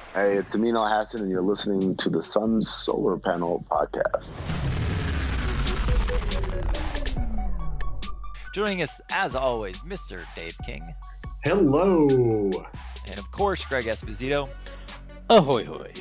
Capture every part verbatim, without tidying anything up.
Hey, it's Amino Hassan, and you're listening to the Sun Solar Panel Podcast. Joining us, as always, Mister Dave King. Hello. And, of course, Greg Esposito. Ahoy, hoy.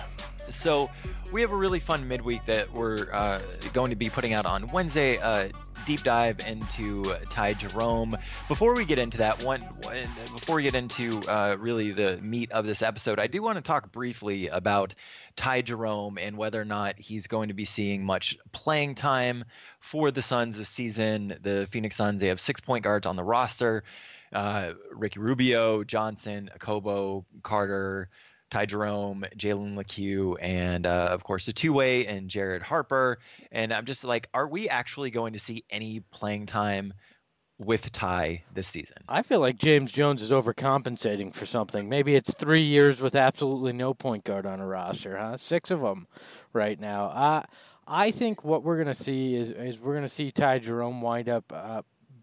So, we have a really fun midweek that we're uh, going to be putting out on Wednesday. Uh, deep dive into Ty Jerome. Before we get into that, one, one before we get into uh, really the meat of this episode, I do want to talk briefly about Ty Jerome and whether or not he's going to be seeing much playing time for the Suns this season. The Phoenix Suns, they have six point guards on the roster. Uh, Ricky Rubio, Johnson, Akobo, Carter, Ty Jerome, Jalen LeCue, and uh, of course the two-way and Jared Harper. And I'm just like, are we actually going to see any playing time with Ty this season? I feel like James Jones is overcompensating for something. Maybe it's three years with absolutely no point guard on a roster, huh? Six of them right now. Uh, I think what we're going to see is, is we're going to see Ty Jerome wind up uh,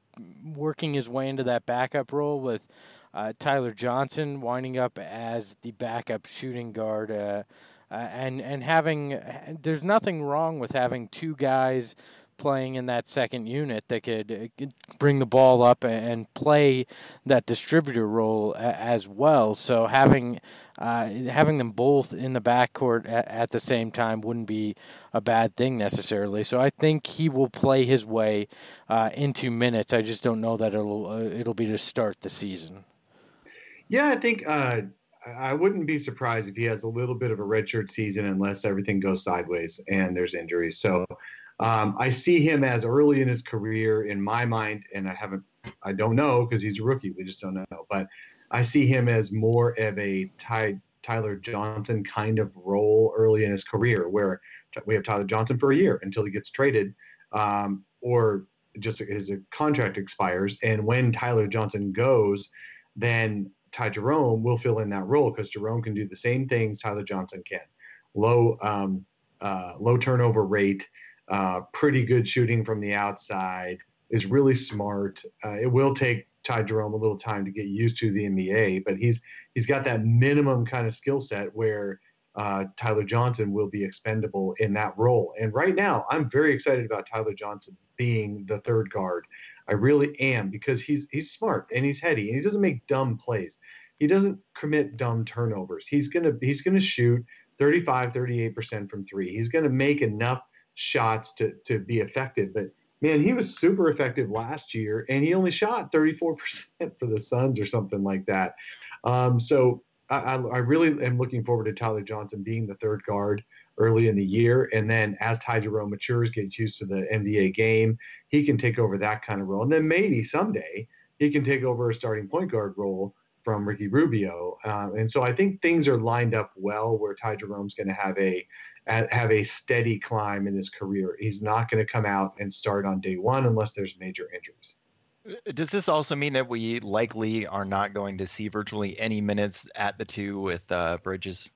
working his way into that backup role with Uh, Tyler Johnson winding up as the backup shooting guard, uh, uh, and and having there's nothing wrong with having two guys playing in that second unit that could, uh, could bring the ball up and play that distributor role a, as well. So having uh, having them both in the backcourt at, at the same time wouldn't be a bad thing necessarily. So I think he will play his way uh, into minutes. I just don't know that it'll uh, it'll be to start the season. Yeah, I think uh, I wouldn't be surprised if he has a little bit of a redshirt season unless everything goes sideways and there's injuries. So um, I see him as early in his career in my mind, and I haven't, I don't know because he's a rookie. We just don't know. But I see him as more of a Ty, Tyler Johnson kind of role early in his career, where we have Tyler Johnson for a year until he gets traded, um, or just his contract expires. And when Tyler Johnson goes, then Ty Jerome will fill in that role because Jerome can do the same things Tyler Johnson can. Low um, uh, low turnover rate, uh, pretty good shooting from the outside, is really smart. Uh, it will take Ty Jerome a little time to get used to the N B A, but he's he's got that minimum kind of skill set where uh, Tyler Johnson will be expendable in that role. And right now, I'm very excited about Tyler Johnson being the third guard. I really am, because he's he's smart and he's heady and he doesn't make dumb plays. He doesn't commit dumb turnovers. He's gonna he's gonna shoot thirty-five, thirty-eight percent from three. He's gonna make enough shots to to be effective. But man, he was super effective last year, and he only shot thirty-four percent for the Suns or something like that. Um, so I, I really am looking forward to Tyler Johnson being the third guard early in the year. And then as Ty Jerome matures, gets used to the N B A game, he can take over that kind of role. And then maybe someday he can take over a starting point guard role from Ricky Rubio. Um, and so I think things are lined up well where Ty Jerome's going to have a have a steady climb in his career. He's not going to come out and start on day one unless there's major injuries. Does this also mean that we likely are not going to see virtually any minutes at the two with uh, Bridges?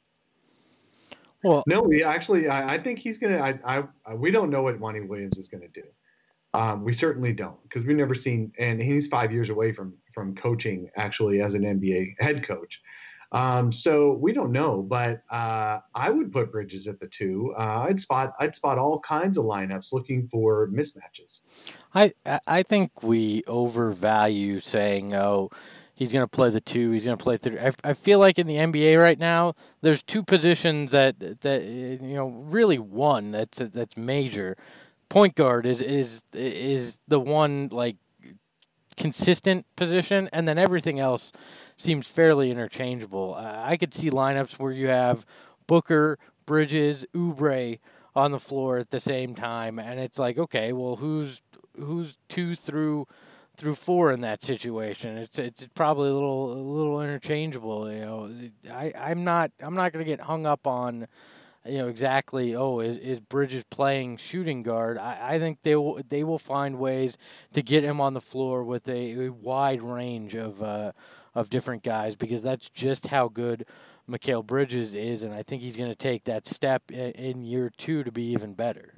Well, no, we actually, I, I think he's going to, I, I, we don't know what Monty Williams is going to do. Um, we certainly don't, because we've never seen, and he's five years away from, from coaching actually as an N B A head coach. Um, so we don't know, but uh, I would put Bridges at the two. Uh, I'd spot, I'd spot all kinds of lineups looking for mismatches. I, I think we overvalue saying, oh, he's going to play the two. He's going to play three. I, I feel like in the N B A right now, there's two positions that that you know really one that's that's major. Point guard is is is the one like consistent position, and then everything else seems fairly interchangeable. Uh, I could see lineups where you have Booker, Bridges, Oubre on the floor at the same time, and it's like, okay, well, who's who's two through through four in that situation? It's it's probably a little a little interchangeable. You know, I I'm not I'm not going to get hung up on, you know, exactly, oh, is, is Bridges playing shooting guard? I, I think they will they will find ways to get him on the floor with a, a wide range of uh, of different guys, because that's just how good Mikal Bridges is, and I think he's going to take that step in, in year two to be even better.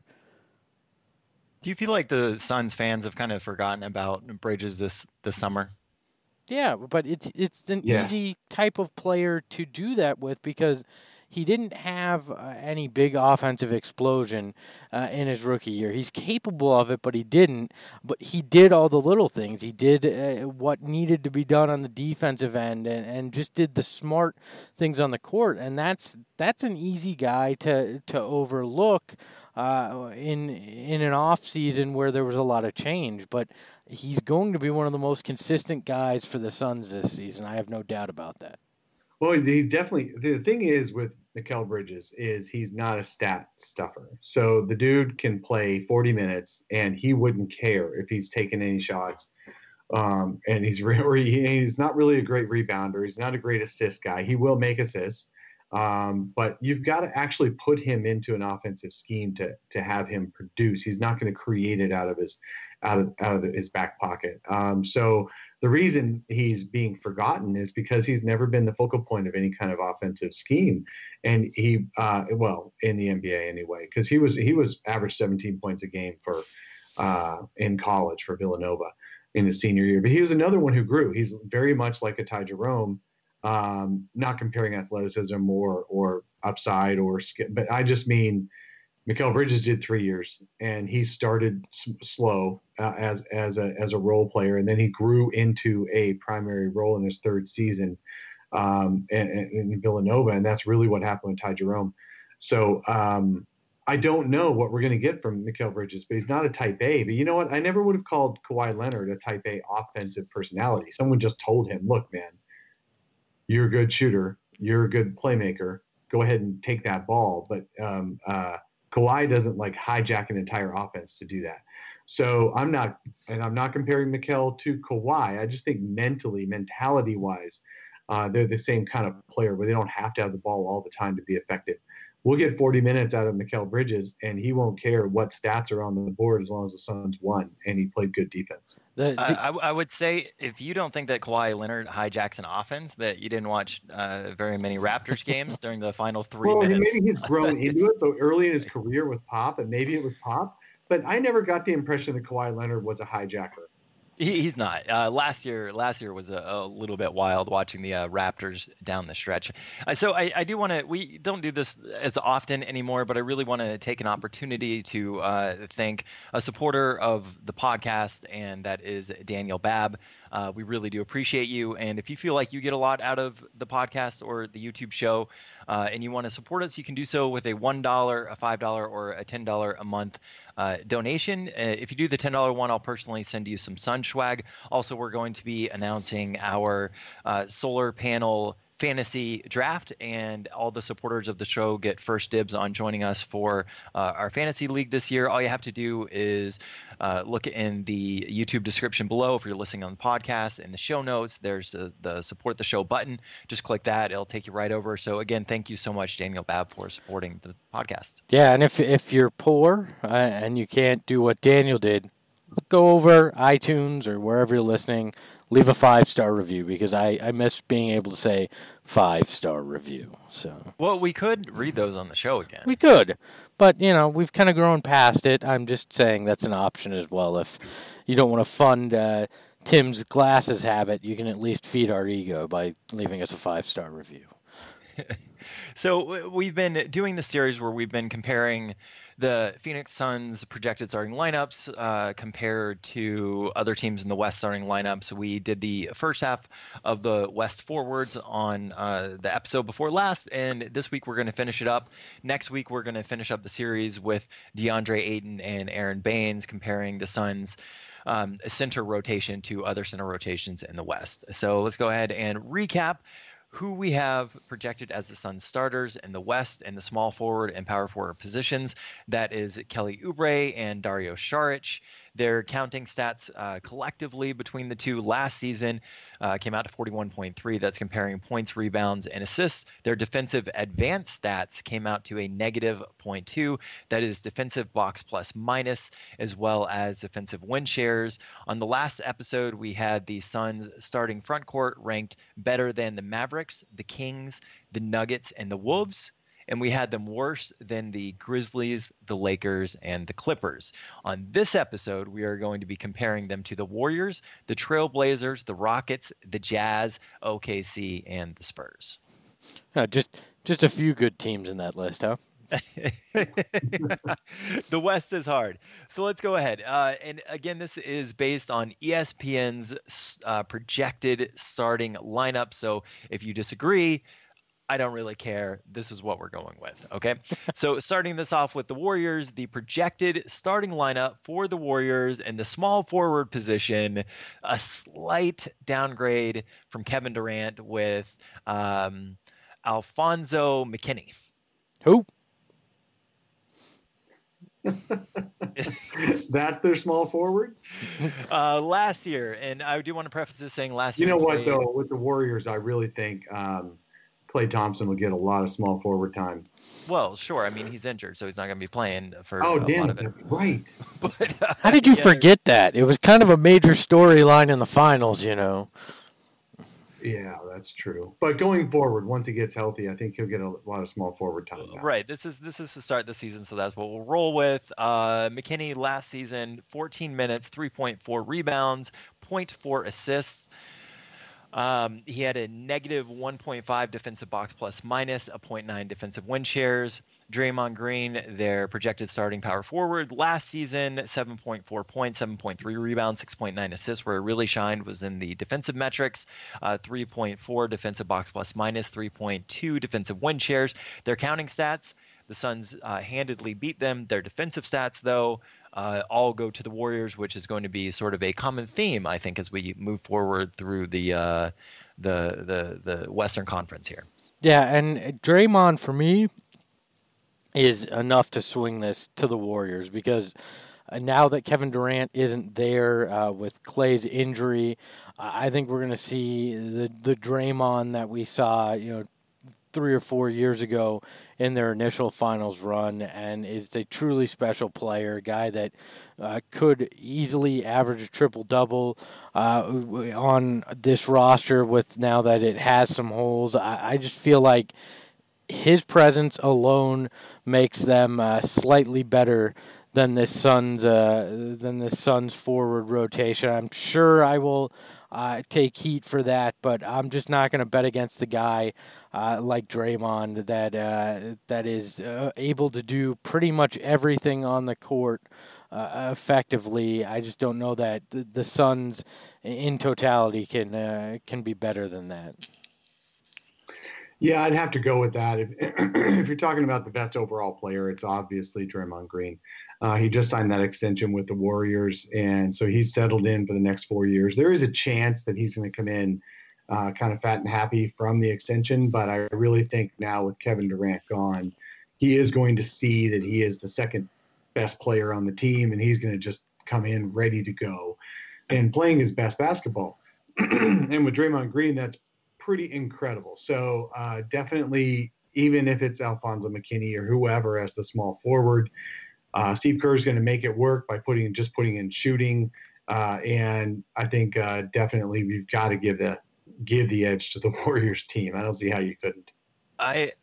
Do you feel like the Suns fans have kind of forgotten about Bridges this this summer? Yeah, but it's it's an Yeah. easy type of player to do that with because he didn't have uh, any big offensive explosion uh, in his rookie year. He's capable of it, but he didn't. But he did all the little things. He did uh, what needed to be done on the defensive end, and, and just did the smart things on the court. And that's that's an easy guy to to overlook uh, in in an off season where there was a lot of change. But he's going to be one of the most consistent guys for the Suns this season. I have no doubt about that. Well, he's definitely the thing is with Mikal Bridges is he's not a stat stuffer. So the dude can play forty minutes and he wouldn't care if he's taking any shots. Um, and he's really he's not really a great rebounder. He's not a great assist guy. He will make assists, um, but you've got to actually put him into an offensive scheme to to have him produce. He's not going to create it out of his out of out of the, his back pocket. Um, so. The reason he's being forgotten is because he's never been the focal point of any kind of offensive scheme, and he, uh, well, in the N B A anyway, because he was he was averaged seventeen points a game for uh, in college for Villanova in his senior year. But he was another one who grew. He's very much like a Ty Jerome, um, not comparing athleticism or or upside or skill, but I just mean. Mikal Bridges did three years, and he started s- slow uh, as as a as a role player, and then he grew into a primary role in his third season um, in, in Villanova, and that's really what happened with Ty Jerome. So um, I don't know what we're going to get from Mikal Bridges, but he's not a Type A. But you know what? I never would have called Kawhi Leonard a Type A offensive personality. Someone just told him, "Look, man, you're a good shooter, you're a good playmaker. Go ahead and take that ball." But um, uh, Kawhi doesn't like hijack an entire offense to do that. So I'm not, and I'm not comparing Mikal to Kawhi. I just think mentally, mentality wise, uh, they're the same kind of player where they don't have to have the ball all the time to be effective. We'll get forty minutes out of Mikal Bridges, and he won't care what stats are on the board as long as the Suns won, and he played good defense. The, I, the, I, I would say if you don't think that Kawhi Leonard hijacks an offense, that you didn't watch uh, very many Raptors games during the final three well, minutes. maybe he's grown into it, so early in his career with Pop, and maybe it was Pop. But I never got the impression that Kawhi Leonard was a hijacker. He, he's not. Uh, last year, last year was a, a little bit wild watching the uh, Raptors down the stretch. Uh, so I, I do want to. We don't do this as often anymore, but I really want to take an opportunity to uh, thank a supporter of the podcast, and that is Daniel Babb. Uh, we really do appreciate you. And if you feel like you get a lot out of the podcast or the YouTube show, uh, and you want to support us, you can do so with a one dollar, a five dollars, or a ten dollars a month uh, donation. Uh, if you do the ten dollars one, I'll personally send you some sun swag. Also, we're going to be announcing our uh, solar panel fantasy draft, and all the supporters of the show get first dibs on joining us for uh, our fantasy league this year. All you have to do is uh, look in the YouTube description below. If you're listening on the podcast, in the show notes, there's a, the support the show button. Just click that. It'll take you right over. So again, thank you so much, Daniel Babb, for supporting the podcast. yeah, and if if you're poor uh, and you can't do what Daniel did, go over iTunes or wherever you're listening, leave a five-star review, because I, I miss being able to say five-star review. So Well, we could read those on the show again. we could, but, you know, we've kind of grown past it. I'm just saying that's an option as well. If you don't want to fund uh, Tim's glasses habit, you can at least feed our ego by leaving us a five-star review. So we've been doing the series where we've been comparing the Phoenix Suns projected starting lineups uh, compared to other teams in the West starting lineups. We did the first half of the West forwards on uh, the episode before last, and this week we're going to finish it up. Next week we're going to finish up the series with DeAndre Ayton and Aaron Baines, comparing the Suns' um, center rotation to other center rotations in the West. So let's go ahead and recap who we have projected as the Suns starters in the West in the small forward and power forward positions. That is Kelly Oubre and Dario Saric. Their counting stats uh, collectively between the two last season uh, came out to forty-one point three. That's comparing points, rebounds, and assists. Their defensive advanced stats came out to a negative zero point two. That is defensive box plus minus, as well as defensive win shares. On the last episode, we had the Suns starting front court ranked better than the Mavericks, the Kings, the Nuggets, and the Wolves. and we had them worse than the Grizzlies, the Lakers, and the Clippers. On this episode, we are going to be comparing them to the Warriors, the Trailblazers, the Rockets, the Jazz, O K C, and the Spurs. Uh, just just a few good teams in that list, huh? The West is hard. So let's go ahead. Uh, and again, this is based on E S P N's uh, projected starting lineup. So if you disagree, I don't really care. This is what we're going with. Okay. So starting this off with the Warriors, the projected starting lineup for the Warriors in the small forward position, a slight downgrade from Kevin Durant with um, Alfonso McKinney. Who? That's their small forward. Uh, last year, and I do want to preface this saying last You year. know what played, though, with the Warriors, I really think um, Klay Thompson will get a lot of small forward time. Well, sure. I mean, he's injured, so he's not going to be playing for Oh, a damn, lot of it. that's right. But, uh, How did you yeah, forget that? It was kind of a major storyline in the finals, you know. Yeah, that's true. But going forward, once he gets healthy, I think he'll get a lot of small forward time. Now. Right. This is this is to start the season, so that's what we'll roll with. Uh, McKinney last season, fourteen minutes, three point four rebounds, zero point four assists. Um, he had a negative one point five defensive box plus minus, a zero point nine defensive win shares. Draymond Green, their projected starting power forward last season, seven point four points, seven point three rebounds, six point nine assists. Where it really shined was in the defensive metrics, uh, three point four defensive box plus minus, three point two defensive win shares. Their counting stats, the Suns uh, handedly beat them. Their defensive stats, though, uh, all go to the Warriors, which is going to be sort of a common theme, I think, as we move forward through the uh, the the the Western Conference here. Yeah, and Draymond, for me, is enough to swing this to the Warriors because uh, now that Kevin Durant isn't there uh, with Klay's injury, uh, I think we're going to see the the Draymond that we saw, you know, three or four years ago in their initial finals run, and is a truly special player, a guy that uh, could easily average a triple-double uh, on this roster with now that it has some holes. I, I just feel like his presence alone makes them uh, slightly better than this Suns uh, than this Suns forward rotation. I'm sure I will uh, take heat for that, but I'm just not going to bet against the guy uh, like Draymond that uh, that is uh, able to do pretty much everything on the court uh, effectively. I just don't know that the, the Suns in totality can uh, can be better than that. Yeah, I'd have to go with that. If, if you're talking about the best overall player, it's obviously Draymond Green. Uh, he just signed that extension with the Warriors, and so he's settled in for the next four years. There is a chance that he's going to come in uh, kind of fat and happy from the extension, but I really think now with Kevin Durant gone, he is going to see that he is the second best player on the team, and he's going to just come in ready to go and playing his best basketball. And with Draymond Green, that's pretty incredible. So uh, definitely, even if it's Alfonso McKinney or whoever as the small forward, uh, Steve Kerr is going to make it work by putting just putting in shooting. Uh, and I think uh, definitely we've got to give the give the edge to the Warriors team. I don't see how you couldn't. I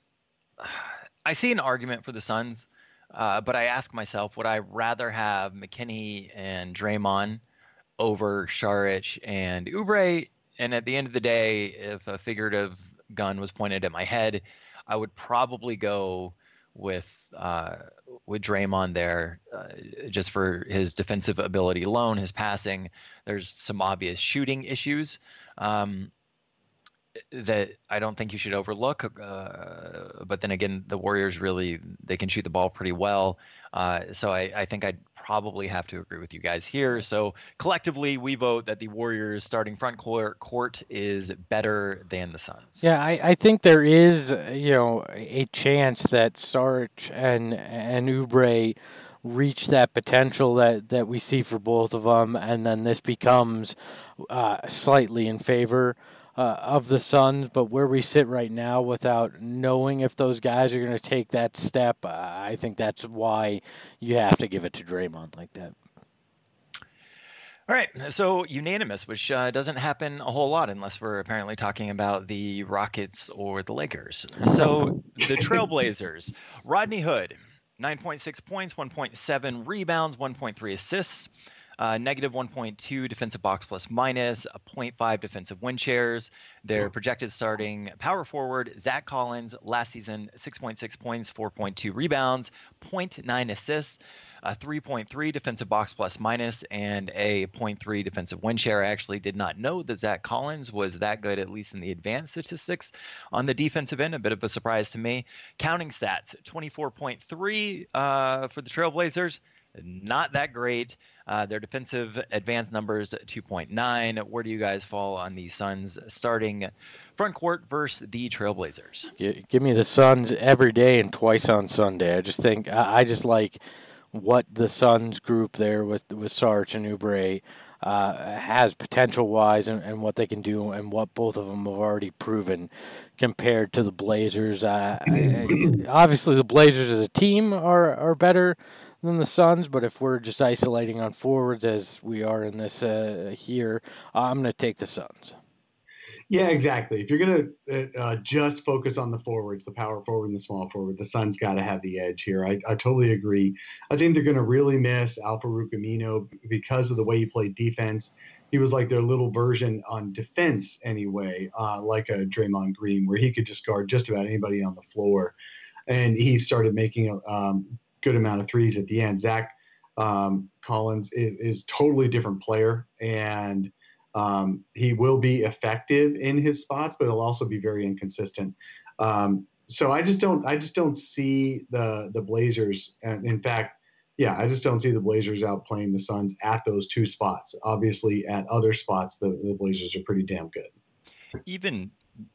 I see an argument for the Suns, uh, but I ask myself, would I rather have McKinney and Draymond over Saric and Oubre? And at the end of the day, if a figurative gun was pointed at my head, I would probably go with uh, with Draymond there, uh, just for his defensive ability alone, his passing. There's some obvious shooting issues um, that I don't think you should overlook. Uh, but then again, the Warriors really, they can shoot the ball pretty well. Uh, so I, I think I'd probably have to agree with you guys here. So collectively, we vote that the Warriors starting front court, court is better than the Suns. Yeah, I, I think there is, you know, a chance that Saric and and Oubre reach that potential that, that we see for both of them, and then this becomes uh, slightly in favor uh, of the Suns. But where we sit right now, without knowing if those guys are going to take that step, uh, I think that's why you have to give it to Draymond like that. All right, so unanimous, which uh, doesn't happen a whole lot unless we're apparently talking about the Rockets or the Lakers. So the Trailblazers, Rodney Hood, nine point six points, one point seven rebounds, one point three assists, uh, negative one point two defensive box plus minus, a zero point five defensive win shares. Their projected starting power forward, Zach Collins, last season, six point six points, four point two rebounds, zero point nine assists, a three point three defensive box plus minus, and a zero point three defensive win share. I actually did not know that Zach Collins was that good, at least in the advanced statistics on the defensive end. A bit of a surprise to me. Counting stats, twenty-four point three uh, for the Trailblazers. Not that great. Uh, their defensive advanced numbers, two point nine. Where do you guys fall on the Suns starting front court versus the Trailblazers? Give me the Suns every day and twice on Sunday. I just think I just like what the Suns group there with with Sarge and Oubre uh, has potential-wise and, and what they can do and what both of them have already proven compared to the Blazers. Uh, obviously, the Blazers as a team are, are better than the Suns, but if we're just isolating on forwards as we are in this uh, here, I'm going to take the Suns. Yeah, exactly. If you're going to uh, just focus on the forwards, the power forward and the small forward, the Suns got to have the edge here. I, I totally agree. I think they're going to really miss Al-Farouq Aminu because of the way he played defense. He was like their little version on defense anyway, uh, like a Draymond Green, where he could just guard just about anybody on the floor. And he started making a um, good amount of threes at the end. Zach um, Collins is, is totally different player, and Um, he will be effective in his spots, but he'll also be very inconsistent. Um, so I just don't, I just don't see the the Blazers. And in fact, yeah, I just don't see the Blazers outplaying the Suns at those two spots. Obviously, at other spots, the, the Blazers are pretty damn good. Even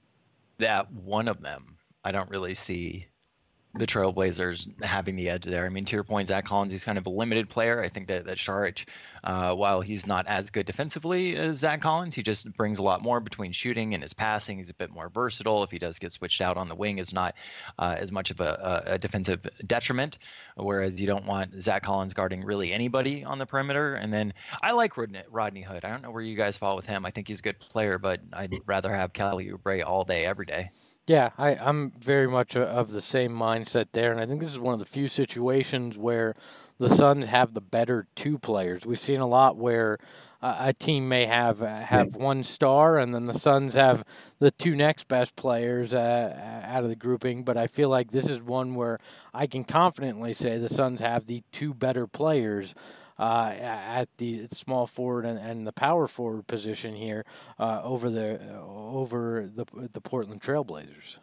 that one of them, I don't really see the Trailblazers having the edge there. I mean, to your point, Zach Collins, he's kind of a limited player. I think that, that Saric, uh, while he's not as good defensively as Zach Collins, he just brings a lot more between shooting and his passing. He's a bit more versatile. If he does get switched out on the wing, it's not uh, as much of a, a defensive detriment, whereas you don't want Zach Collins guarding really anybody on the perimeter. And then I like Rodney, Rodney Hood. I don't know where you guys fall with him. I think he's a good player, but I'd rather have Kelly Oubre all day, every day. Yeah, I, I'm very much of the same mindset there, and I think this is one of the few situations where the Suns have the better two players. We've seen a lot where uh, a team may have uh, have one star, and then the Suns have the two next best players uh, out of the grouping, but I feel like this is one where I can confidently say the Suns have the two better players Uh, at the small forward and, and the power forward position here uh, over the uh, over the the Portland Trailblazers.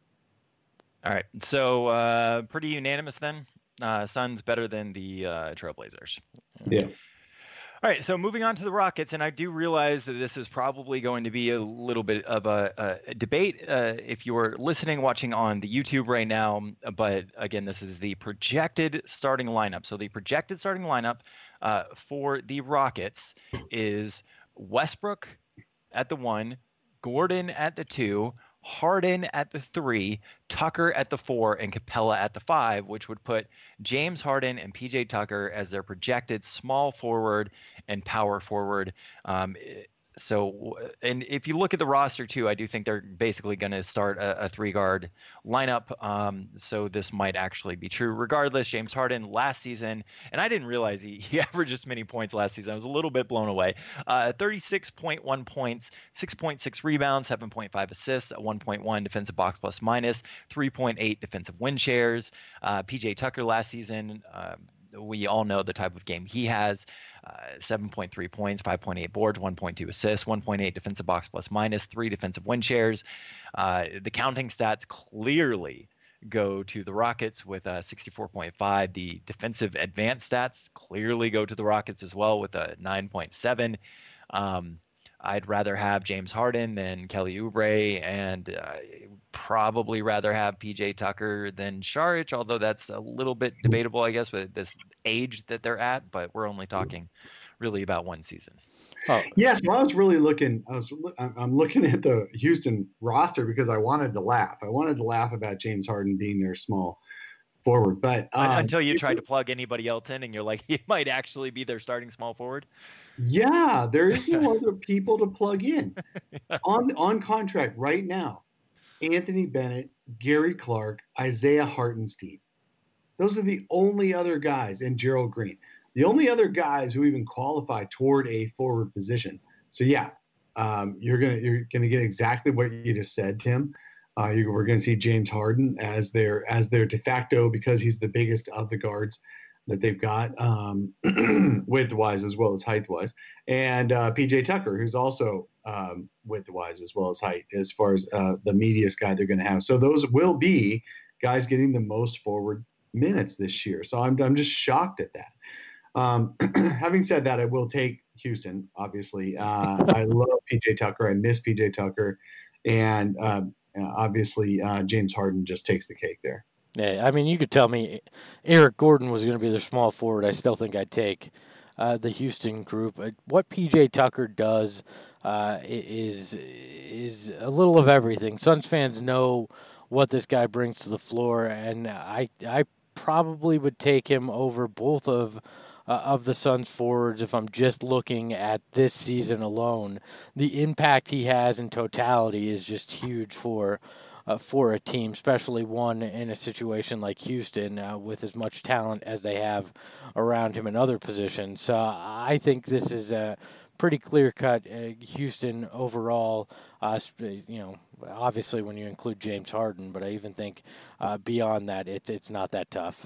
All right, so uh, pretty unanimous then. Uh, Suns better than the uh, Trailblazers. Yeah. All right, so moving on to the Rockets, and I do realize that this is probably going to be a little bit of a, a debate uh, if you're listening, watching on the YouTube right now. But again, this is the projected starting lineup. So the projected starting lineup uh, for the Rockets is Westbrook at the one, Gordon at the two, Harden at the three, Tucker at the four, and Capella at the five, which would put James Harden and P J Tucker as their projected small forward and power forward. Um, so, and if you look at the roster too, I do think they're basically going to start a, a three-guard lineup. Um, so this might actually be true. Regardless, James Harden last season, and I didn't realize he, he averaged this many points last season. I was a little bit blown away. Uh, thirty-six point one points, six point six rebounds, seven point five assists, one point one defensive box plus minus, three point eight defensive win shares. Uh, P J Tucker last season, uh, we all know the type of game he has. Uh, seven point three points, five point eight boards, one point two assists, one point eight defensive box plus minus, three defensive win shares. Uh, the counting stats clearly go to the Rockets with a sixty-four point five. The defensive advanced stats clearly go to the Rockets as well with a nine point seven. Um, I'd rather have James Harden than Kelly Oubre, and uh, probably rather have P J Tucker than Saric, although that's a little bit debatable, I guess, with this age that they're at. But we're only talking really about one season. Oh, yes. Well, I was really looking. I was. I'm looking at the Houston roster because I wanted to laugh. I wanted to laugh about James Harden being their small forward, but um, until you tried to plug anybody else in, and you're like, he might actually be their starting small forward. Yeah, there is no other people to plug in Yeah. on on contract right now. Anthony Bennett, Gary Clark, Isaiah Hartenstein. Those are the only other guys, and Gerald Green, the only other guys who even qualify toward a forward position. So yeah, um, you're gonna you're gonna get exactly what you just said, Tim. Uh, you, we're gonna see James Harden as their as their de facto, because he's the biggest of the guards that they've got, um, width wise as well as height wise, and uh, P J Tucker, who's also um, width wise as well as height, as far as uh, the meatiest guy they're going to have. So those will be guys getting the most forward minutes this year. So I'm I'm just shocked at that. Um, having said that, I will take Houston. Obviously, uh, I love P J Tucker. I miss P J Tucker, and uh, obviously uh, James Harden just takes the cake there. Yeah, I mean, you could tell me Eric Gordon was going to be their small forward. I still think I'd take uh, the Houston group. What P J Tucker does uh, is is a little of everything. Suns fans know what this guy brings to the floor, and I I probably would take him over both of uh, of the Suns forwards if I'm just looking at this season alone. The impact he has in totality is just huge for uh, for a team, especially one in a situation like Houston uh, with as much talent as they have around him in other positions. So I think this is a pretty clear-cut uh, Houston overall. Uh, you know, obviously when you include James Harden, but I even think uh, beyond that, it's it's not that tough.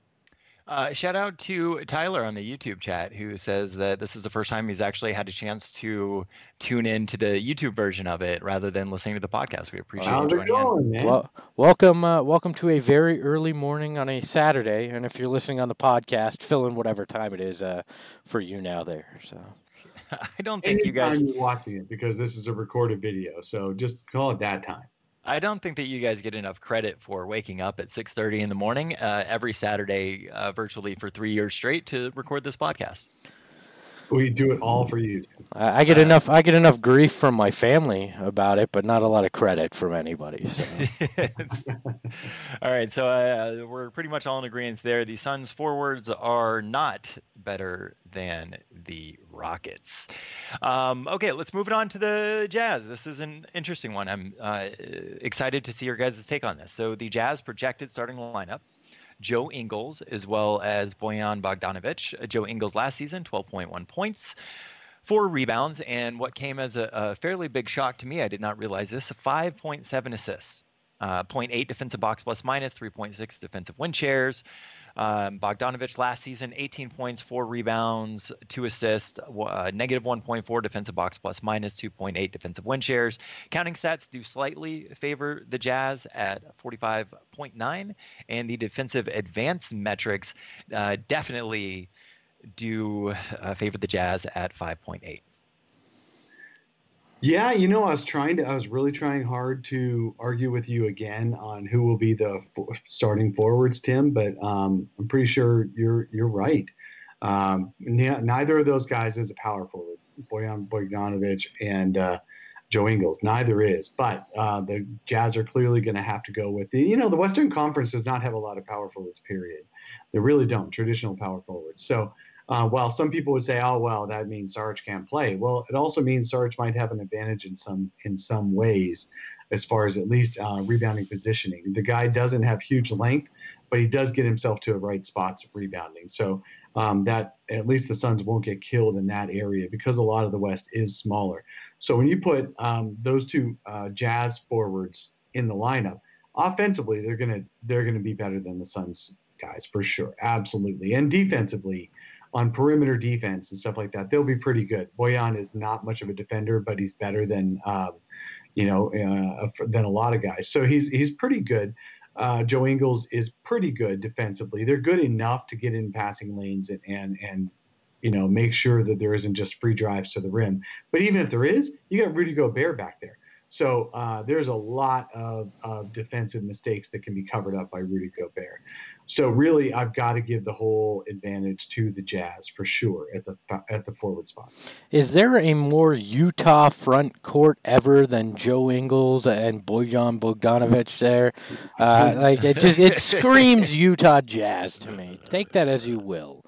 Uh, shout out to Tyler on the YouTube chat, who says that this is the first time he's actually had a chance to tune in to the YouTube version of it rather than listening to the podcast. We appreciate How's you it joining going, in. man? Well, welcome, uh, welcome to a very early morning on a Saturday, and if you're listening on the podcast, fill in whatever time it is uh, for you now there. So. I don't think you Anytime guys. you're watching it, because this is a recorded video, so just call it that time. I don't think that you guys get enough credit for waking up at six thirty in the morning uh, every Saturday, uh, virtually for three years straight, to record this podcast. We do it all for you. I I get Uh, enough. I get enough grief from my family about it, but not a lot of credit from anybody. So. All right, so uh, we're pretty much all in agreement there. The Suns forwards are not better than the Rockets. Um, okay, let's move it on to the Jazz. This is an interesting one. I'm uh, excited to see your guys' take on this. So the Jazz projected starting lineup: Joe Ingles as well as Bojan Bogdanovic. Joe Ingles last season, twelve point one points, four rebounds, and what came as a, a fairly big shock to me, I did not realize this, five point seven assists, uh, zero point eight defensive box plus minus, three point six defensive win shares. Um, Bogdanovic last season, eighteen points, four rebounds, two assists, uh, negative one point four defensive box plus minus, two point eight defensive win shares. Counting stats do slightly favor the Jazz at forty-five point nine, and the defensive advance metrics uh, definitely do uh, favor the Jazz at five point eight. Yeah, you know, I was trying to, I was really trying hard to argue with you again on who will be the for, starting forwards, Tim, but um, I'm pretty sure you're you're right. Um, n- neither of those guys is a power forward, Bojan Bogdanovic and uh, Joe Ingles. Neither is, but uh, the Jazz are clearly going to have to go with the, you know, the Western Conference does not have a lot of power forwards, period. They really don't, traditional power forwards. So, Uh, while some people would say, "Oh, well, that means Sarge can't play," well, it also means Sarge might have an advantage in some in some ways, as far as at least uh, rebounding positioning. The guy doesn't have huge length, but he does get himself to the right spots of rebounding. So um, that at least the Suns won't get killed in that area, because a lot of the West is smaller. So when you put um, those two uh, Jazz forwards in the lineup, offensively they're gonna they're gonna be better than the Suns guys for sure, absolutely, and defensively. On perimeter defense and stuff like that, they'll be pretty good. Bojan is not much of a defender, but he's better than, um, you know, uh, than a lot of guys. So he's he's pretty good. Uh, Joe Ingles is pretty good defensively. They're good enough to get in passing lanes and and and you know make sure that there isn't just free drives to the rim. But even if there is, you got Rudy Gobert back there. So uh, there's a lot of, of defensive mistakes that can be covered up by Rudy Gobert. So really, I've got to give the whole advantage to the Jazz for sure at the at the forward spot. Is there a more Utah front court ever than Joe Ingles and Bojan Bogdanovic there? Uh, like it just it screams Utah Jazz to me. Take that as you will.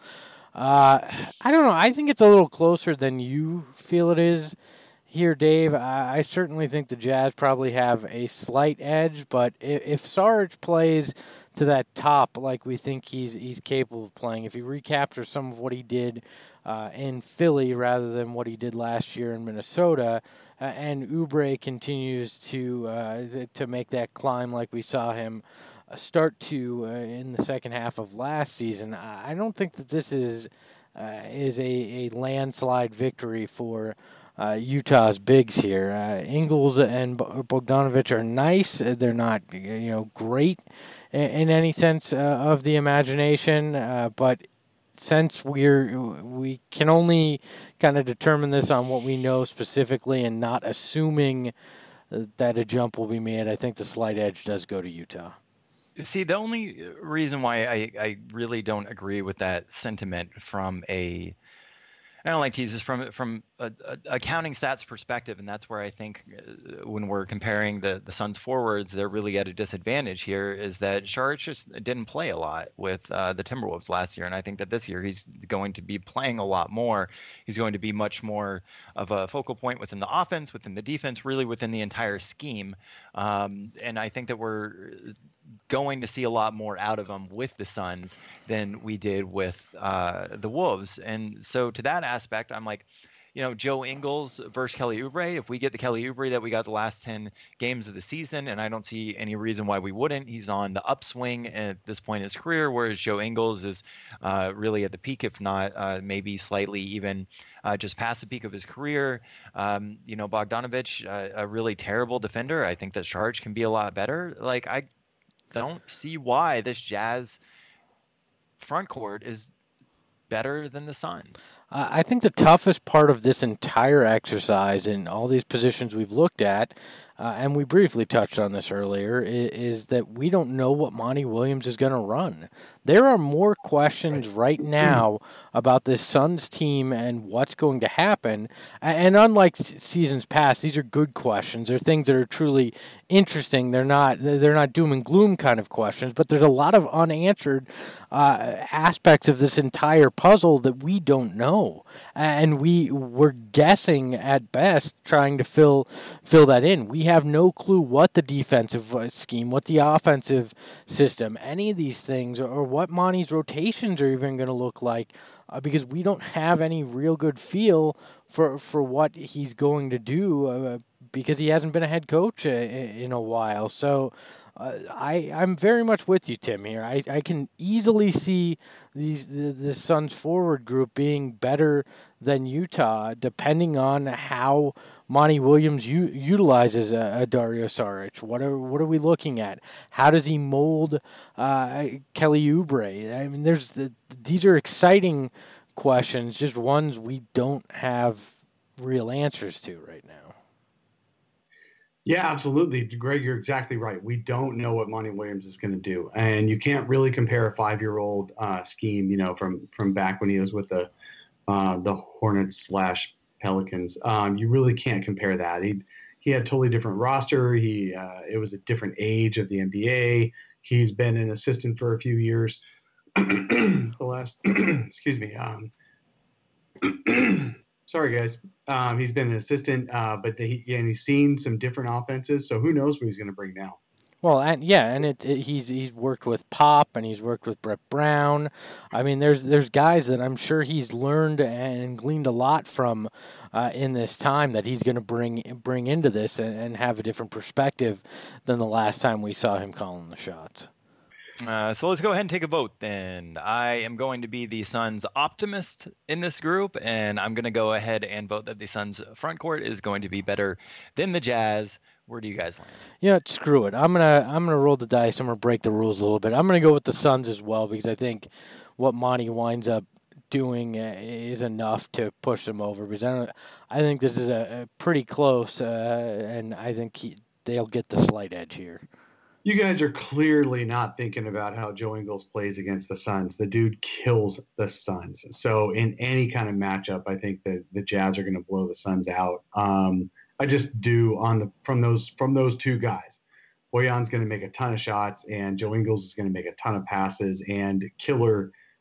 Uh, I don't know. I think it's a little closer than you feel it is here, Dave. I, I certainly think the Jazz probably have a slight edge, but if, if Sarge plays to that top like we think he's he's capable of playing, if he recaptures some of what he did uh, in Philly rather than what he did last year in Minnesota, uh, and Oubre continues to uh, to make that climb like we saw him start to uh, in the second half of last season, I don't think that this is uh, is a, a landslide victory for uh, Utah's bigs here. Uh, Ingles and Bogdanovic are nice. They're not you know great in, in any sense uh, of the imagination, uh, but since we're we can only kind of determine this on what we know specifically and not assuming that a jump will be made, I think the slight edge does go to Utah. See, the only reason why I, I really don't agree with that sentiment from a, I don't like to use this from from a, a accounting stats perspective, and that's where I think uh, when we're comparing the the Suns forwards, they're really at a disadvantage here. Is that Saric just didn't play a lot with uh, the Timberwolves last year, and I think that this year he's going to be playing a lot more. He's going to be much more of a focal point within the offense, within the defense, really within the entire scheme. Um, and I think that we're going to see a lot more out of him with the Suns than we did with uh, the Wolves. And so to that aspect, I'm like, you know, Joe Ingles versus Kelly Oubre. If we get the Kelly Oubre that we got the last ten games of the season, and I don't see any reason why we wouldn't, he's on the upswing at this point in his career, whereas Joe Ingles is uh, really at the peak, if not uh, maybe slightly even uh, just past the peak of his career. Um, you know, Bogdanovic, uh, a really terrible defender. I think that Saric can be a lot better. Like, I don't see why this Jazz front court is better than the Suns. Uh, I think the toughest part of this entire exercise in all these positions we've looked at, uh, and we briefly touched on this earlier, is, is that we don't know what Monty Williams is going to run. There are more questions right now about this Suns team and what's going to happen. And unlike seasons past, these are good questions. They're things that are truly interesting. They're not they're not doom and gloom kind of questions, but there's a lot of unanswered uh, aspects of this entire puzzle that we don't know, and we we're guessing at best, trying to fill fill that in. We have no clue what the defensive scheme, what the offensive system, any of these things, or what Monty's rotations are even going to look like, uh, because we don't have any real good feel for for what he's going to do, uh, because he hasn't been a head coach uh, in a while. So uh, I I'm very much with you, Tim, here. I, I can easily see these the, the Suns forward group being better than Utah, depending on how Monty Williams u- utilizes a, a Dario Saric. What are what are we looking at? How does he mold uh, Kelly Oubre? I mean, there's the, these are exciting questions, just ones we don't have real answers to right now. Yeah, absolutely. Greg, you're exactly right. We don't know what Monty Williams is going to do. And you can't really compare a five-year-old uh, scheme, you know, from from back when he was with the uh, the Hornets slash Pelicans. Um, you really can't compare that. He he had a totally different roster. He uh, it was a different age of the N B A. He's been an assistant for a few years. the last, excuse me. Um, sorry, guys. Um, he's been an assistant, uh, but the, and he's seen some different offenses. So who knows what he's going to bring now? Well, and yeah, and it, it, he's he's worked with Pop and he's worked with Brett Brown. I mean, there's there's guys that I'm sure he's learned and gleaned a lot from uh, in this time that he's going to bring bring into this and, and have a different perspective than the last time we saw him calling the shots. Uh, so let's go ahead and take a vote then. I am going to be the Suns optimist in this group, and I'm going to go ahead and vote that the Suns front court is going to be better than the Jazz. Where do you guys land? You know, screw it. I'm gonna I'm gonna roll the dice. I'm gonna break the rules a little bit. I'm gonna go with the Suns as well, because I think what Monty winds up doing uh, is enough to push them over. Because I don't, I think this is a, a pretty close, uh, and I think he, they'll get the slight edge here. You guys are clearly not thinking about how Joe Ingles plays against the Suns. The dude kills the Suns. So in any kind of matchup, I think that the Jazz are going to blow the Suns out. Um, I just do on the from those from those two guys. Bojan's going to make a ton of shots, and Joe Ingles is going to make a ton of passes. And killer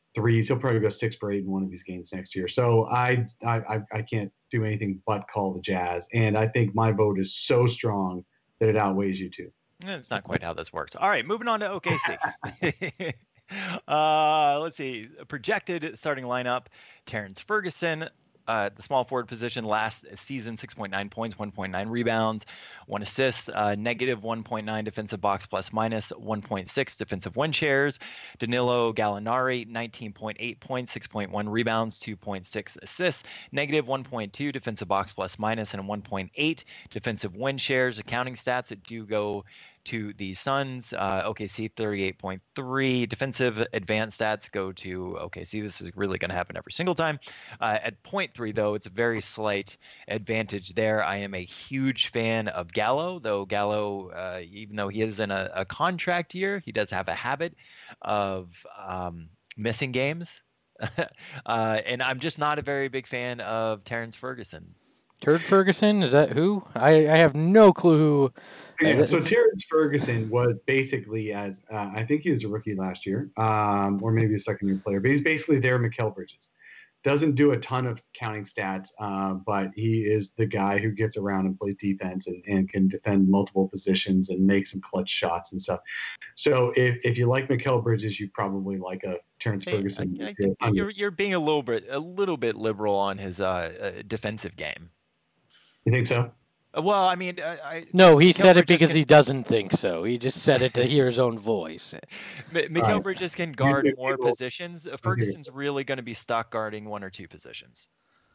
threes. He'll probably go six for eight in one of these games next year. So I I I can't do anything but call the Jazz, and I think my vote is so strong that it outweighs you two. That's not quite how this works. All right, moving on to O K C. uh, let's see. Projected starting lineup: Terrence Ferguson, uh, the small forward position, last season six point nine points, one point nine rebounds, one assist, uh, negative one point nine defensive box plus minus, one point six defensive win shares. Danilo Gallinari, nineteen point eight points, six point one rebounds, two point six assists, negative one point two defensive box plus minus, and one point eight defensive win shares. Accounting stats that do go to the Suns. uh, O K C thirty-eight point three. Defensive advanced stats go to O K C. This is really going to happen every single time. Uh, at point three, though, it's a very slight advantage there. I am a huge fan of Gallo, though Gallo, uh, even though he is in a, a contract year, he does have a habit of um, missing games. uh, and I'm just not a very big fan of Terrence Ferguson. Turd Ferguson? Is that who? I, I have no clue who. Yeah, so Terrence Ferguson was basically, as uh, I think he was a rookie last year, um, or maybe a second year player, but he's basically their Mikal Bridges. Doesn't do a ton of counting stats, uh, but he is the guy who gets around and plays defense and, and can defend multiple positions and make some clutch shots and stuff. So if, if you like Mikal Bridges, you probably like a Terrence Hey, Ferguson. I, I think you're you're being a little bit a little bit liberal on his uh, uh, defensive game. You think so? Uh, Well, I mean, uh, I, No, he Mikal said it Bridges because can, he doesn't think so. He just said it to hear his own voice. M- Mikal Right. Bridges can guard you more people- positions. Uh, Ferguson's really going to be stuck guarding one or two positions.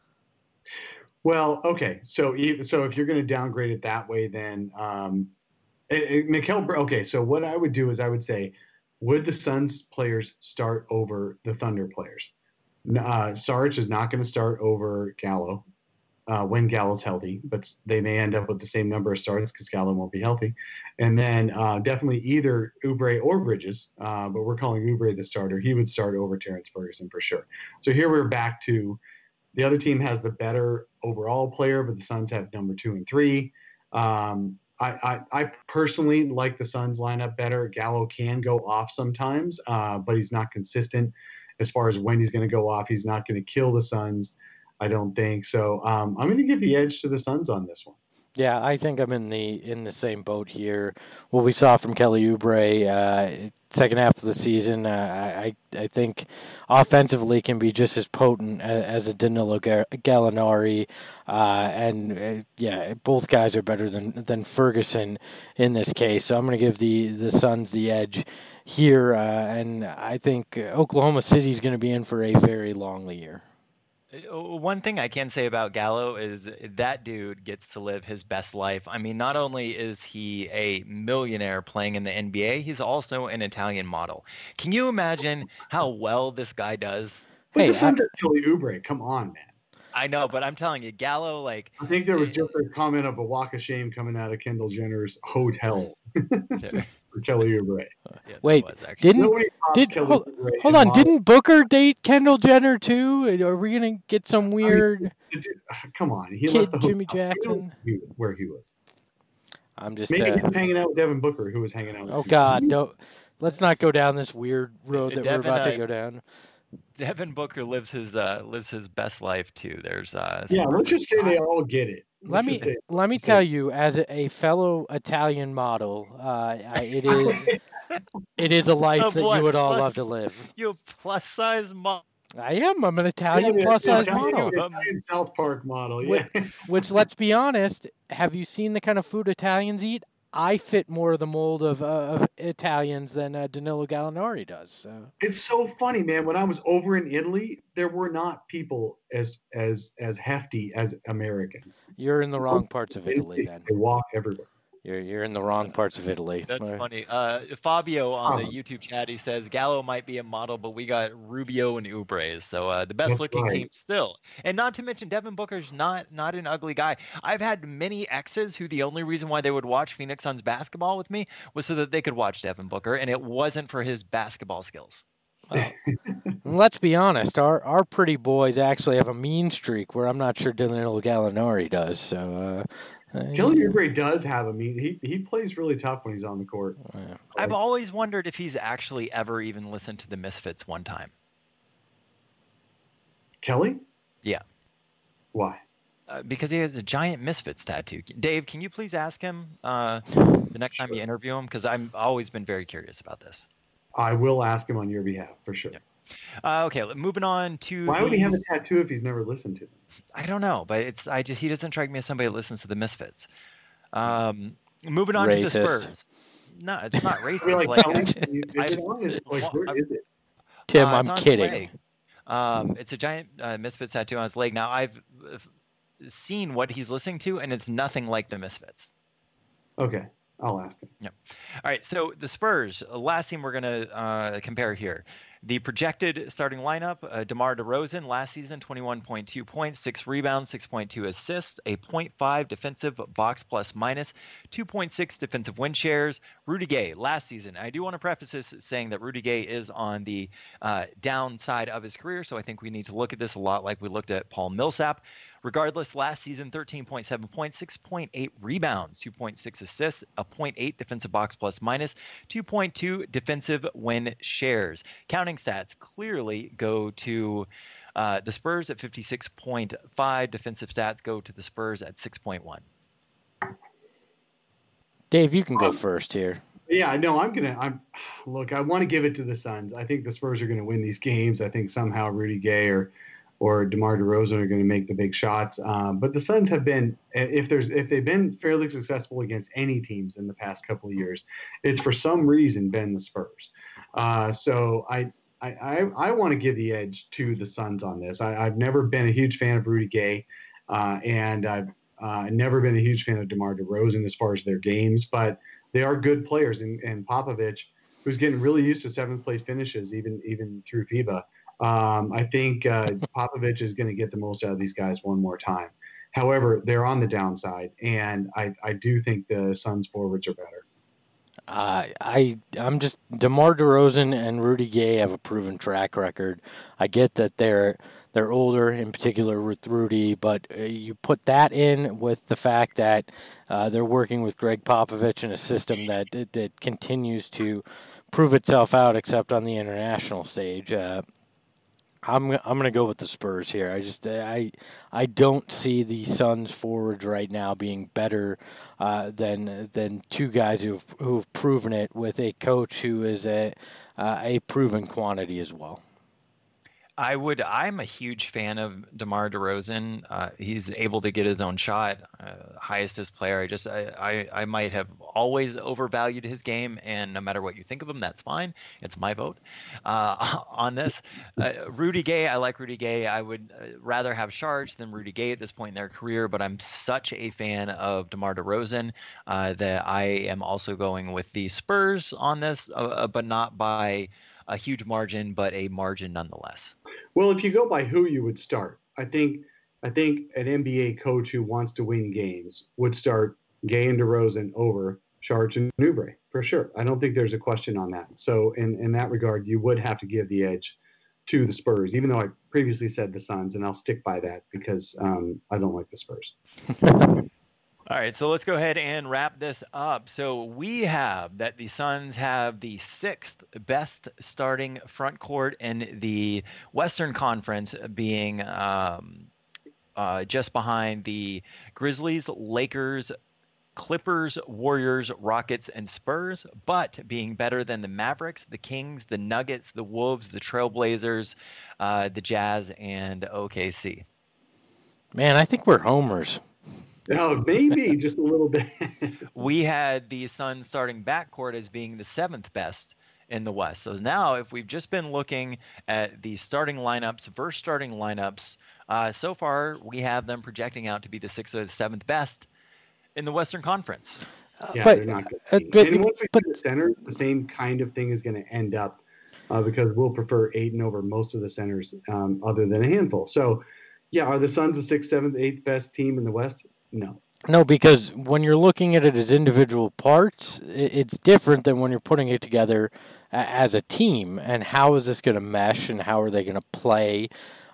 Well, okay. So, e- so if you're going to downgrade it that way, then um, it, it, Mikal. Br- Okay, so what I would do is I would say, would the Suns players start over the Thunder players? N- Uh, Sarge is not going to start over Gallo uh, when Gallo's healthy, but they may end up with the same number of starts because Gallo won't be healthy. And then uh, definitely either Oubre or Bridges, uh, but we're calling Oubre the starter. He would start over Terrence Ferguson for sure. So here we're back to the other team has the better overall player, but the Suns have number two and three. Um, I, I, I personally like the Suns lineup better. Gallo can go off sometimes, uh, but he's not consistent as far as when he's going to go off. He's not going to kill the Suns, I don't think. So um, I'm going to give the edge to the Suns on this one. Yeah, I think I'm in the in the same boat here. What we saw from Kelly Oubre, uh, second half of the season, uh, I I think offensively can be just as potent as, as a Danilo Gallinari, uh, and uh, yeah, both guys are better than than Ferguson in this case. So I'm going to give the the Suns the edge here, uh, and I think Oklahoma City is going to be in for a very long year. One thing I can say about Gallo is that dude gets to live his best life. I mean, not only is he a millionaire playing in the N B A, he's also an Italian model. Can you imagine how well this guy does? But Hey, the Suns have Kelly Oubre. Come on, man. I know, but I'm telling you, Gallo, like, I think there was just a comment of a walk of shame coming out of Kendall Jenner's hotel for Kelly Oubre. yeah, there Wait, was, actually. didn't Nobody pops did Kelly hold, Oubre hold in on? model. Didn't Booker date Kendall Jenner too? Are we gonna get some weird? Dude, come on, he Kid left the Jimmy hotel. Jackson? You know who he- where he was. I'm just. Maybe Uh, he was hanging out with Devin Booker, who was hanging out with oh him. God, don't. Let's not go down this weird road that Devin, we're about to uh, go down. Devin Booker lives his uh, lives his best life too. There's uh, Yeah, let's just say they all get it. Let Let's me just say- let me say- tell you, as a, a fellow Italian model, uh, I- it is it is a life Of that what? you would all Plus- love to live. you a plus size model. I am. I'm an Yeah, Italian the- plus the size Italian- model. the Italian South Park model. Yeah. Wait. Which, let's be honest, have you seen the kind of food Italians eat? I fit more of the mold of, uh, of Italians than uh, Danilo Gallinari does. So. It's so funny, man. When I was over in Italy, there were not people as as as hefty as Americans. You're in the wrong parts of Italy, then. They walk everywhere. You're you're in the wrong parts of Italy. That's Uh, funny. Uh, Fabio on the Oh. YouTube chat, he says Gallo might be a model, but we got Rubio and Oubre, so uh, the best That's looking right. team still. And not to mention Devin Booker's not not an ugly guy. I've had many exes who the only reason why they would watch Phoenix Suns basketball with me was so that they could watch Devin Booker, and it wasn't for his basketball skills. Well, let's be honest. Our our pretty boys actually have a mean streak where I'm not sure Danilo Gallinari does. So. Uh, uh, Kelly yeah. Oubre does have a mean. He he plays really tough when he's on the court. Yeah. I've always wondered if he's actually ever even listened to the Misfits one time. Kelly? Yeah. Why? Uh, because he has a giant Misfits tattoo. Dave, can you please ask him uh, the next Sure. time you interview him? Because I've always been very curious about this. I will ask him on your behalf for sure. Yeah. Uh, okay, moving on to. Why would he have a these- tattoo if he's never listened to them? I don't know, but it's I just he doesn't strike me as somebody that listens to the Misfits. Um, moving on Racist. to the Spurs. No, it's not I racist. mean, like, like, Kelly, I- you- is I- it on? Is it- like, well, where I- is it? Tim, Uh, I'm it's on his kidding. leg. Um, it's a giant uh, Misfits tattoo on his leg. Now I've uh, seen what he's listening to, and it's nothing like the Misfits. Okay, I'll ask him. All right, so the Spurs, uh, last team we're going to uh, compare here. The projected starting lineup, uh, DeMar DeRozan, last season, twenty-one point two points, six rebounds, six point two assists, a point five defensive box plus minus, two point six defensive win shares. Rudy Gay, last season. I do want to preface this saying that Rudy Gay is on the uh, downside of his career, so I think we need to look at this a lot like we looked at Paul Millsap. Regardless, last season, thirteen point seven points, six point eight rebounds, two point six assists, a point eight defensive box plus minus, two point two defensive win shares. Counting stats clearly go to uh, the Spurs at fifty-six point five. Defensive stats go to the Spurs at six point one. Dave, you can go Um, first here. Yeah, no, I'm gonna. I'm look. I want to give it to the Suns. I think the Spurs are going to win these games. I think somehow Rudy Gay or or DeMar DeRozan are going to make the big shots. Um, but the Suns have been, if there's if they've been fairly successful against any teams in the past couple of years, it's for some reason been the Spurs. Uh, so I. I, I, I want to give the edge to the Suns on this. I, I've never been a huge fan of Rudy Gay, uh, and I've uh, never been a huge fan of DeMar DeRozan as far as their games, but they are good players. And, and Popovich, who's getting really used to seventh place finishes, even even through FIBA, um, I think uh, Popovich is going to get the most out of these guys one more time. However, they're on the downside, and I, I do think the Suns forwards are better. Uh, I I'm just DeMar DeRozan and Rudy Gay have a proven track record. I get that they're they're older, in particular with Rudy, but uh, you put that in with the fact that uh, they're working with Greg Popovich in a system that that continues to prove itself out, except on the international stage. Uh, I'm I'm gonna go with the Spurs here. I just I I don't see the Suns forwards right now being better uh, than than two guys who've who've proven it with a coach who is a uh, a proven quantity as well. I would. I'm a huge fan of DeMar DeRozan. Uh, he's able to get his own shot, uh, highest as player. I just, I, I, I might have always overvalued his game, and no matter what you think of him, that's fine. It's my vote uh, on this. Uh, Rudy Gay, I like Rudy Gay. I would rather have Sharks than Rudy Gay at this point in their career, but I'm such a fan of DeMar DeRozan uh, that I am also going with the Spurs on this, uh, but not by a huge margin, but a margin nonetheless. Well, if you go by who you would start, I think I think an N B A coach who wants to win games would start Gay and DeRozan over Sharks and Oubre for sure. I don't think there's a question on that. So in, in that regard, you would have to give the edge to the Spurs, even though I previously said the Suns, and I'll stick by that because um, I don't like the Spurs. All right, so let's go ahead and wrap this up. So we have that the Suns have the sixth best starting front court in the Western Conference, being um, uh, just behind the Grizzlies, Lakers, Clippers, Warriors, Rockets, and Spurs, but being better than the Mavericks, the Kings, the Nuggets, the Wolves, the Trailblazers, uh, the Jazz, and O K C. Man, I think we're homers. Oh, maybe just a little bit. We had the Suns starting backcourt as being the seventh best in the West. So now if we've just been looking at the starting lineups versus starting lineups, uh, so far we have them projecting out to be the sixth or the seventh best in the Western Conference. Yeah, but, they're not good. uh, team. but- and once we but- get the centers, the same kind of thing is going to end up uh, because we'll prefer Ayton over most of the centers um, other than a handful. So, yeah, are the Suns the sixth, seventh, eighth best team in the West? No. No, because when you're looking at it as individual parts, it's different than when you're putting it together as a team. And how is this going to mesh and how are they going to play? Uh,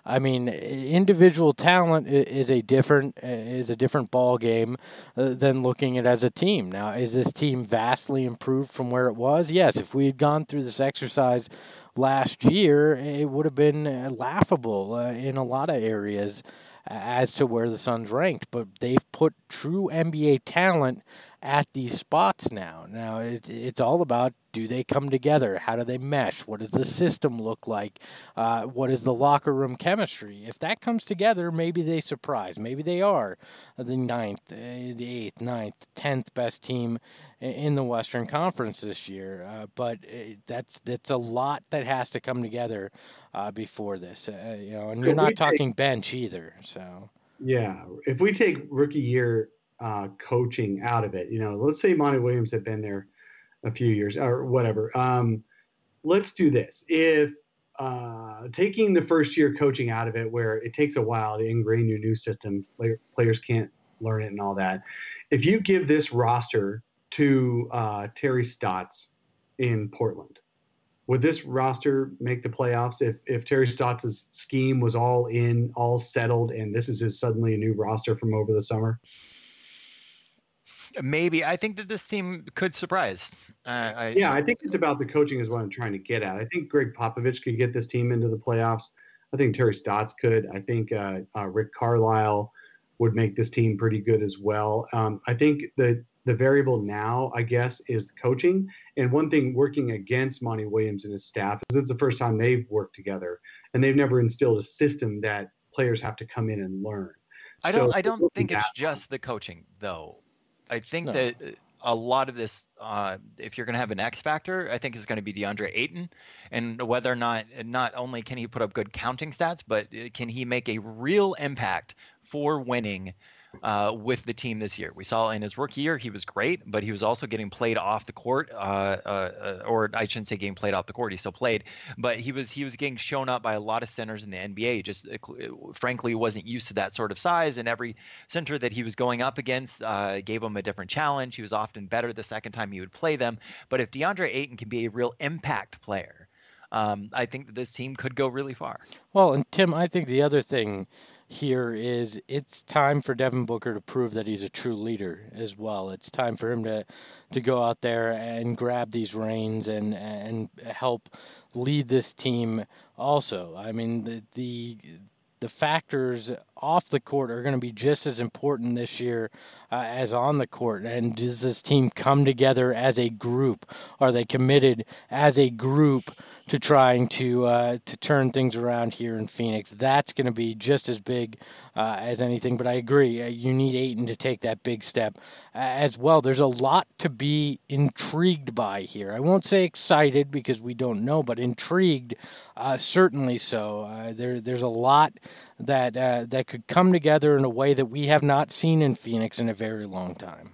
I mean, individual talent is a different is a different ball game uh, than looking at it as a team. Now, is this team vastly improved from where it was? Yes. If we had gone through this exercise last year, it would have been laughable uh, in a lot of areas as to where the Suns ranked. But they've put true N B A talent at these spots now. Now, it, it's all about, do they come together? How do they mesh? What does the system look like? Uh, what is the locker room chemistry? If that comes together, maybe they surprise. Maybe they are the ninth, uh, the eighth, ninth, tenth best team in the Western Conference this year. Uh, but uh, that's that's a lot that has to come together uh, before this. Uh, you know, and you're not talking bench either. So yeah, if we take rookie year uh, coaching out of it, you know, let's say Monty Williams had been there a few years or whatever. Um, let's do this. If uh, taking the first year coaching out of it, where it takes a while to ingrain your new system, player, players can't learn it and all that. If you give this roster to uh, Terry Stotts in Portland, would this roster make the playoffs if, if Terry Stotts' scheme was all in, all settled, and this is his suddenly a new roster from over the summer? Maybe. I think that this team could surprise. Uh, I, yeah, I think it's about the coaching is what I'm trying to get at. I think Greg Popovich could get this team into the playoffs. I think Terry Stotts could. I think uh, uh, Rick Carlisle would make this team pretty good as well. Um, I think that the variable now, I guess, is the coaching. And one thing working against Monty Williams and his staff is it's the first time they've worked together, and they've never instilled a system that players have to come in and learn. I don't. So, I don't think it's just the coaching, though. I think no. that a lot of this, uh, if you're going to have an X factor, I think is going to be DeAndre Ayton, and whether or not, not only can he put up good counting stats, but can he make a real impact for winning uh, with the team this year. We saw in his rookie year, he was great, but he was also getting played off the court, uh, uh, or I shouldn't say getting played off the court. He still played, but he was he was getting shown up by a lot of centers in the N B A. Just uh, frankly wasn't used to that sort of size, and every center that he was going up against uh, gave him a different challenge. He was often better the second time he would play them. But if DeAndre Ayton can be a real impact player, um, I think that this team could go really far. Well, and Tim, I think the other thing here is it's time for Devin Booker to prove that he's a true leader as well. It's time for him to to go out there and grab these reins and and help lead this team also. I mean, the the the factors off the court are going to be just as important this year uh, as on the court. And does this team come together as a group? Are they committed as a group to trying to uh, to turn things around here in Phoenix? That's going to be just as big uh, as anything. But I agree, uh, you need Ayton to take that big step uh, as well. There's a lot to be intrigued by here. I won't say excited because we don't know, but intrigued, uh, certainly so. Uh, there, there's a lot that uh, that could come together in a way that we have not seen in Phoenix in a very long time.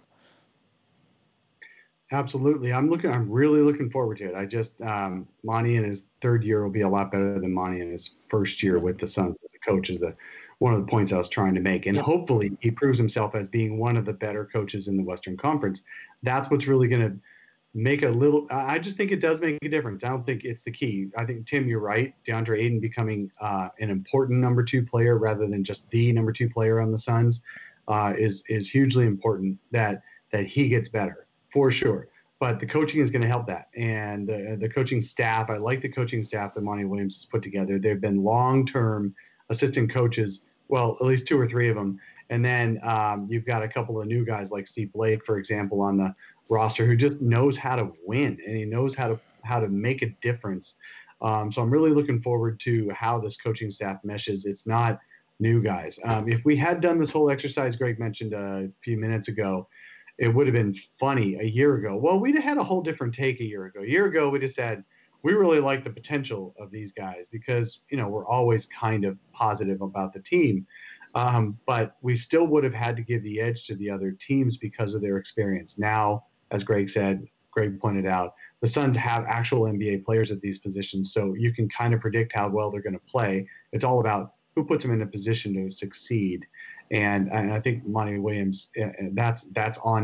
Absolutely. I'm looking, I'm really looking forward to it. I just, um, Monty in his third year will be a lot better than Monty in his first year with the Suns as a coach, is the, one of the points I was trying to make. And yep. hopefully he proves himself as being one of the better coaches in the Western Conference. That's what's really going to make a little, I just think it does make a difference. I don't think it's the key. I think, Tim, you're right. DeAndre Ayton becoming uh, an important number two player rather than just the number two player on the Suns uh, is, is hugely important that, that he gets better. For sure. But the coaching is going to help that. And the, the coaching staff, I like the coaching staff that Monty Williams has put together. They've been long-term assistant coaches, well, at least two or three of them. And then um, you've got a couple of new guys like Steve Blake, for example, on the roster who just knows how to win and he knows how to how to make a difference. Um, so I'm really looking forward to how this coaching staff meshes. It's not new guys. Um, if we had done this whole exercise Greg mentioned a few minutes ago, it would have been funny a year ago. Well, we'd have had a whole different take a year ago. A year ago, we just said, we really like the potential of these guys because, you know, we're always kind of positive about the team. Um, but we still would have had to give the edge to the other teams because of their experience. Now, as Greg said, Greg pointed out, the Suns have actual N B A players at these positions, so you can kind of predict how well they're going to play. It's all about who puts them in a position to succeed. And, and I think Monty Williams, that's that's on him.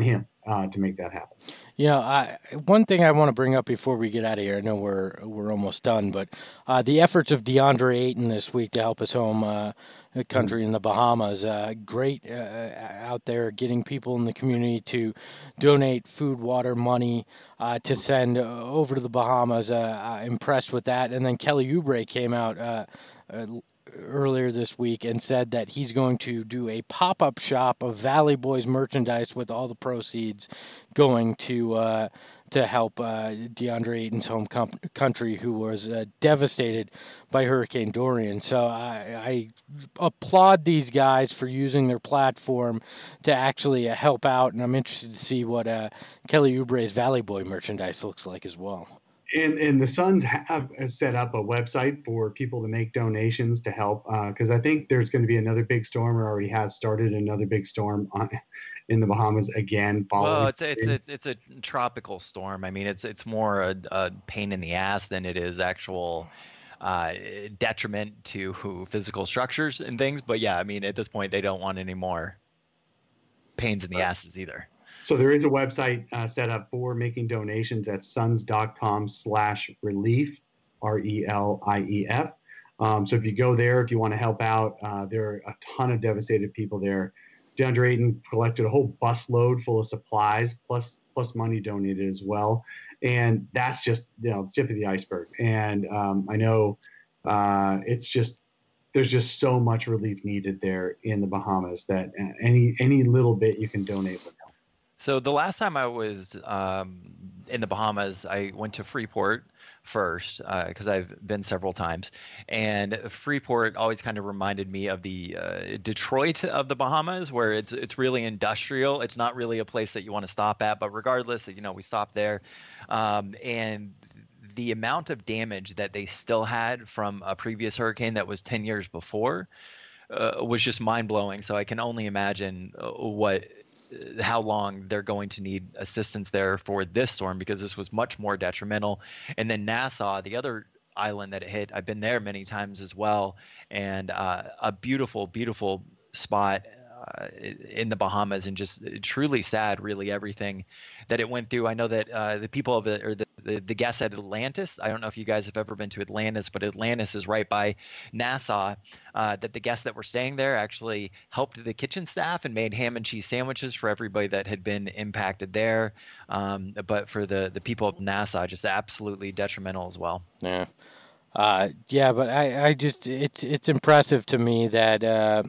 uh, to make that happen. You know, I, one thing I want to bring up before we get out of here, I know we're we're almost done, but uh, the efforts of DeAndre Ayton this week to help us home uh, country in the Bahamas, uh, great uh, out there getting people in the community to donate food, water, money uh, to send uh, over to the Bahamas. Uh, I'm impressed with that. And then Kelly Oubre came out uh, uh, earlier this week and said that he's going to do a pop-up shop of Valley Boys merchandise with all the proceeds going to uh, to help uh, DeAndre Ayton's home com- country, who was uh, devastated by Hurricane Dorian. So I, I applaud these guys for using their platform to actually uh, help out, and I'm interested to see what uh, Kelly Oubre's Valley Boy merchandise looks like as well. And, and the Suns have set up a website for people to make donations to help, because uh, I think there's going to be another big storm, or already has started another big storm on, in the Bahamas again. Well, it's it's a, it's a tropical storm. I mean, it's it's more a, a pain in the ass than it is actual uh, detriment to physical structures and things. But yeah, I mean, at this point, they don't want any more pains in the asses either. So there is a website uh, set up for making donations at suns.com slash relief, R E L I E F. Um, so if you go there, if you want to help out, uh, there are a ton of devastated people there. DeAndre Ayton collected a whole busload full of supplies, plus plus money donated as well. And that's just, you know, the tip of the iceberg. And um, I know uh, it's just, there's just so much relief needed there in the Bahamas that any any little bit you can donate would help. So the last time I was um, in the Bahamas, I went to Freeport first because uh, I've been several times, and Freeport always kind of reminded me of the uh, Detroit of the Bahamas, where it's it's really industrial. It's not really a place that you want to stop at, but regardless, you know, we stopped there, um, and the amount of damage that they still had from a previous hurricane that was ten years before uh, was just mind blowing. So I can only imagine what. how long they're going to need assistance there for this storm, because this was much more detrimental. And then Nassau, the other island that it hit, I've been there many times as well, and uh, a beautiful, beautiful spot uh, in the Bahamas, and just truly sad, really, everything that it went through. I know that uh, the people of it, or the, the, the guests at Atlantis, I don't know if you guys have ever been to Atlantis, but Atlantis is right by Nassau, uh, that the guests that were staying there actually helped the kitchen staff and made ham and cheese sandwiches for everybody that had been impacted there. Um, but for the, the people of Nassau, just absolutely detrimental as well. Yeah. Uh, yeah, but I, I just, it's, it's impressive to me that, uh,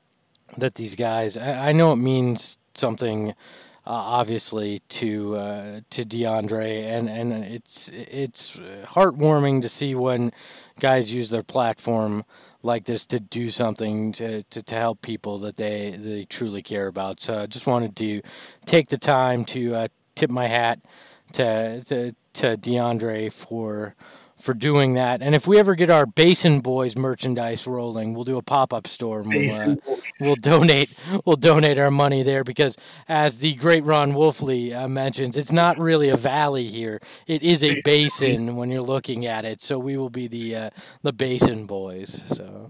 that these guys, I, I know it means something, uh, obviously to, uh, to DeAndre, and, and it's, it's heartwarming to see when guys use their platform like this to do something to, to, to help people that they, they truly care about. So I just wanted to take the time to, uh, tip my hat to, to, to DeAndre for, for doing that. And if we ever get our Basin Boys merchandise rolling, we'll do a pop-up store. And we'll, uh, we'll donate. We'll donate our money there, because, as the great Ron Wolfley uh, mentions, it's not really a valley here. It is a basin when you're looking at it. So we will be the uh, the Basin Boys. So.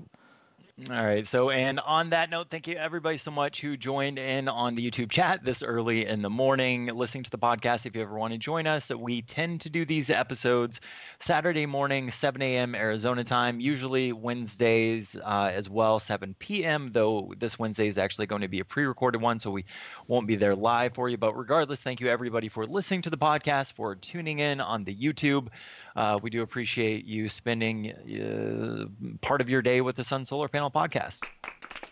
All right. So, and on that note, thank you everybody so much who joined in on the YouTube chat this early in the morning, listening to the podcast. If you ever want to join us, we tend to do these episodes Saturday morning, seven a.m. Arizona time, usually Wednesdays uh, as well, seven p.m., though this Wednesday is actually going to be a pre-recorded one, so we won't be there live for you. But regardless, thank you everybody for listening to the podcast, for tuning in on the YouTube. Uh, we do appreciate you spending uh, part of your day with the Sun Solar Panel podcast.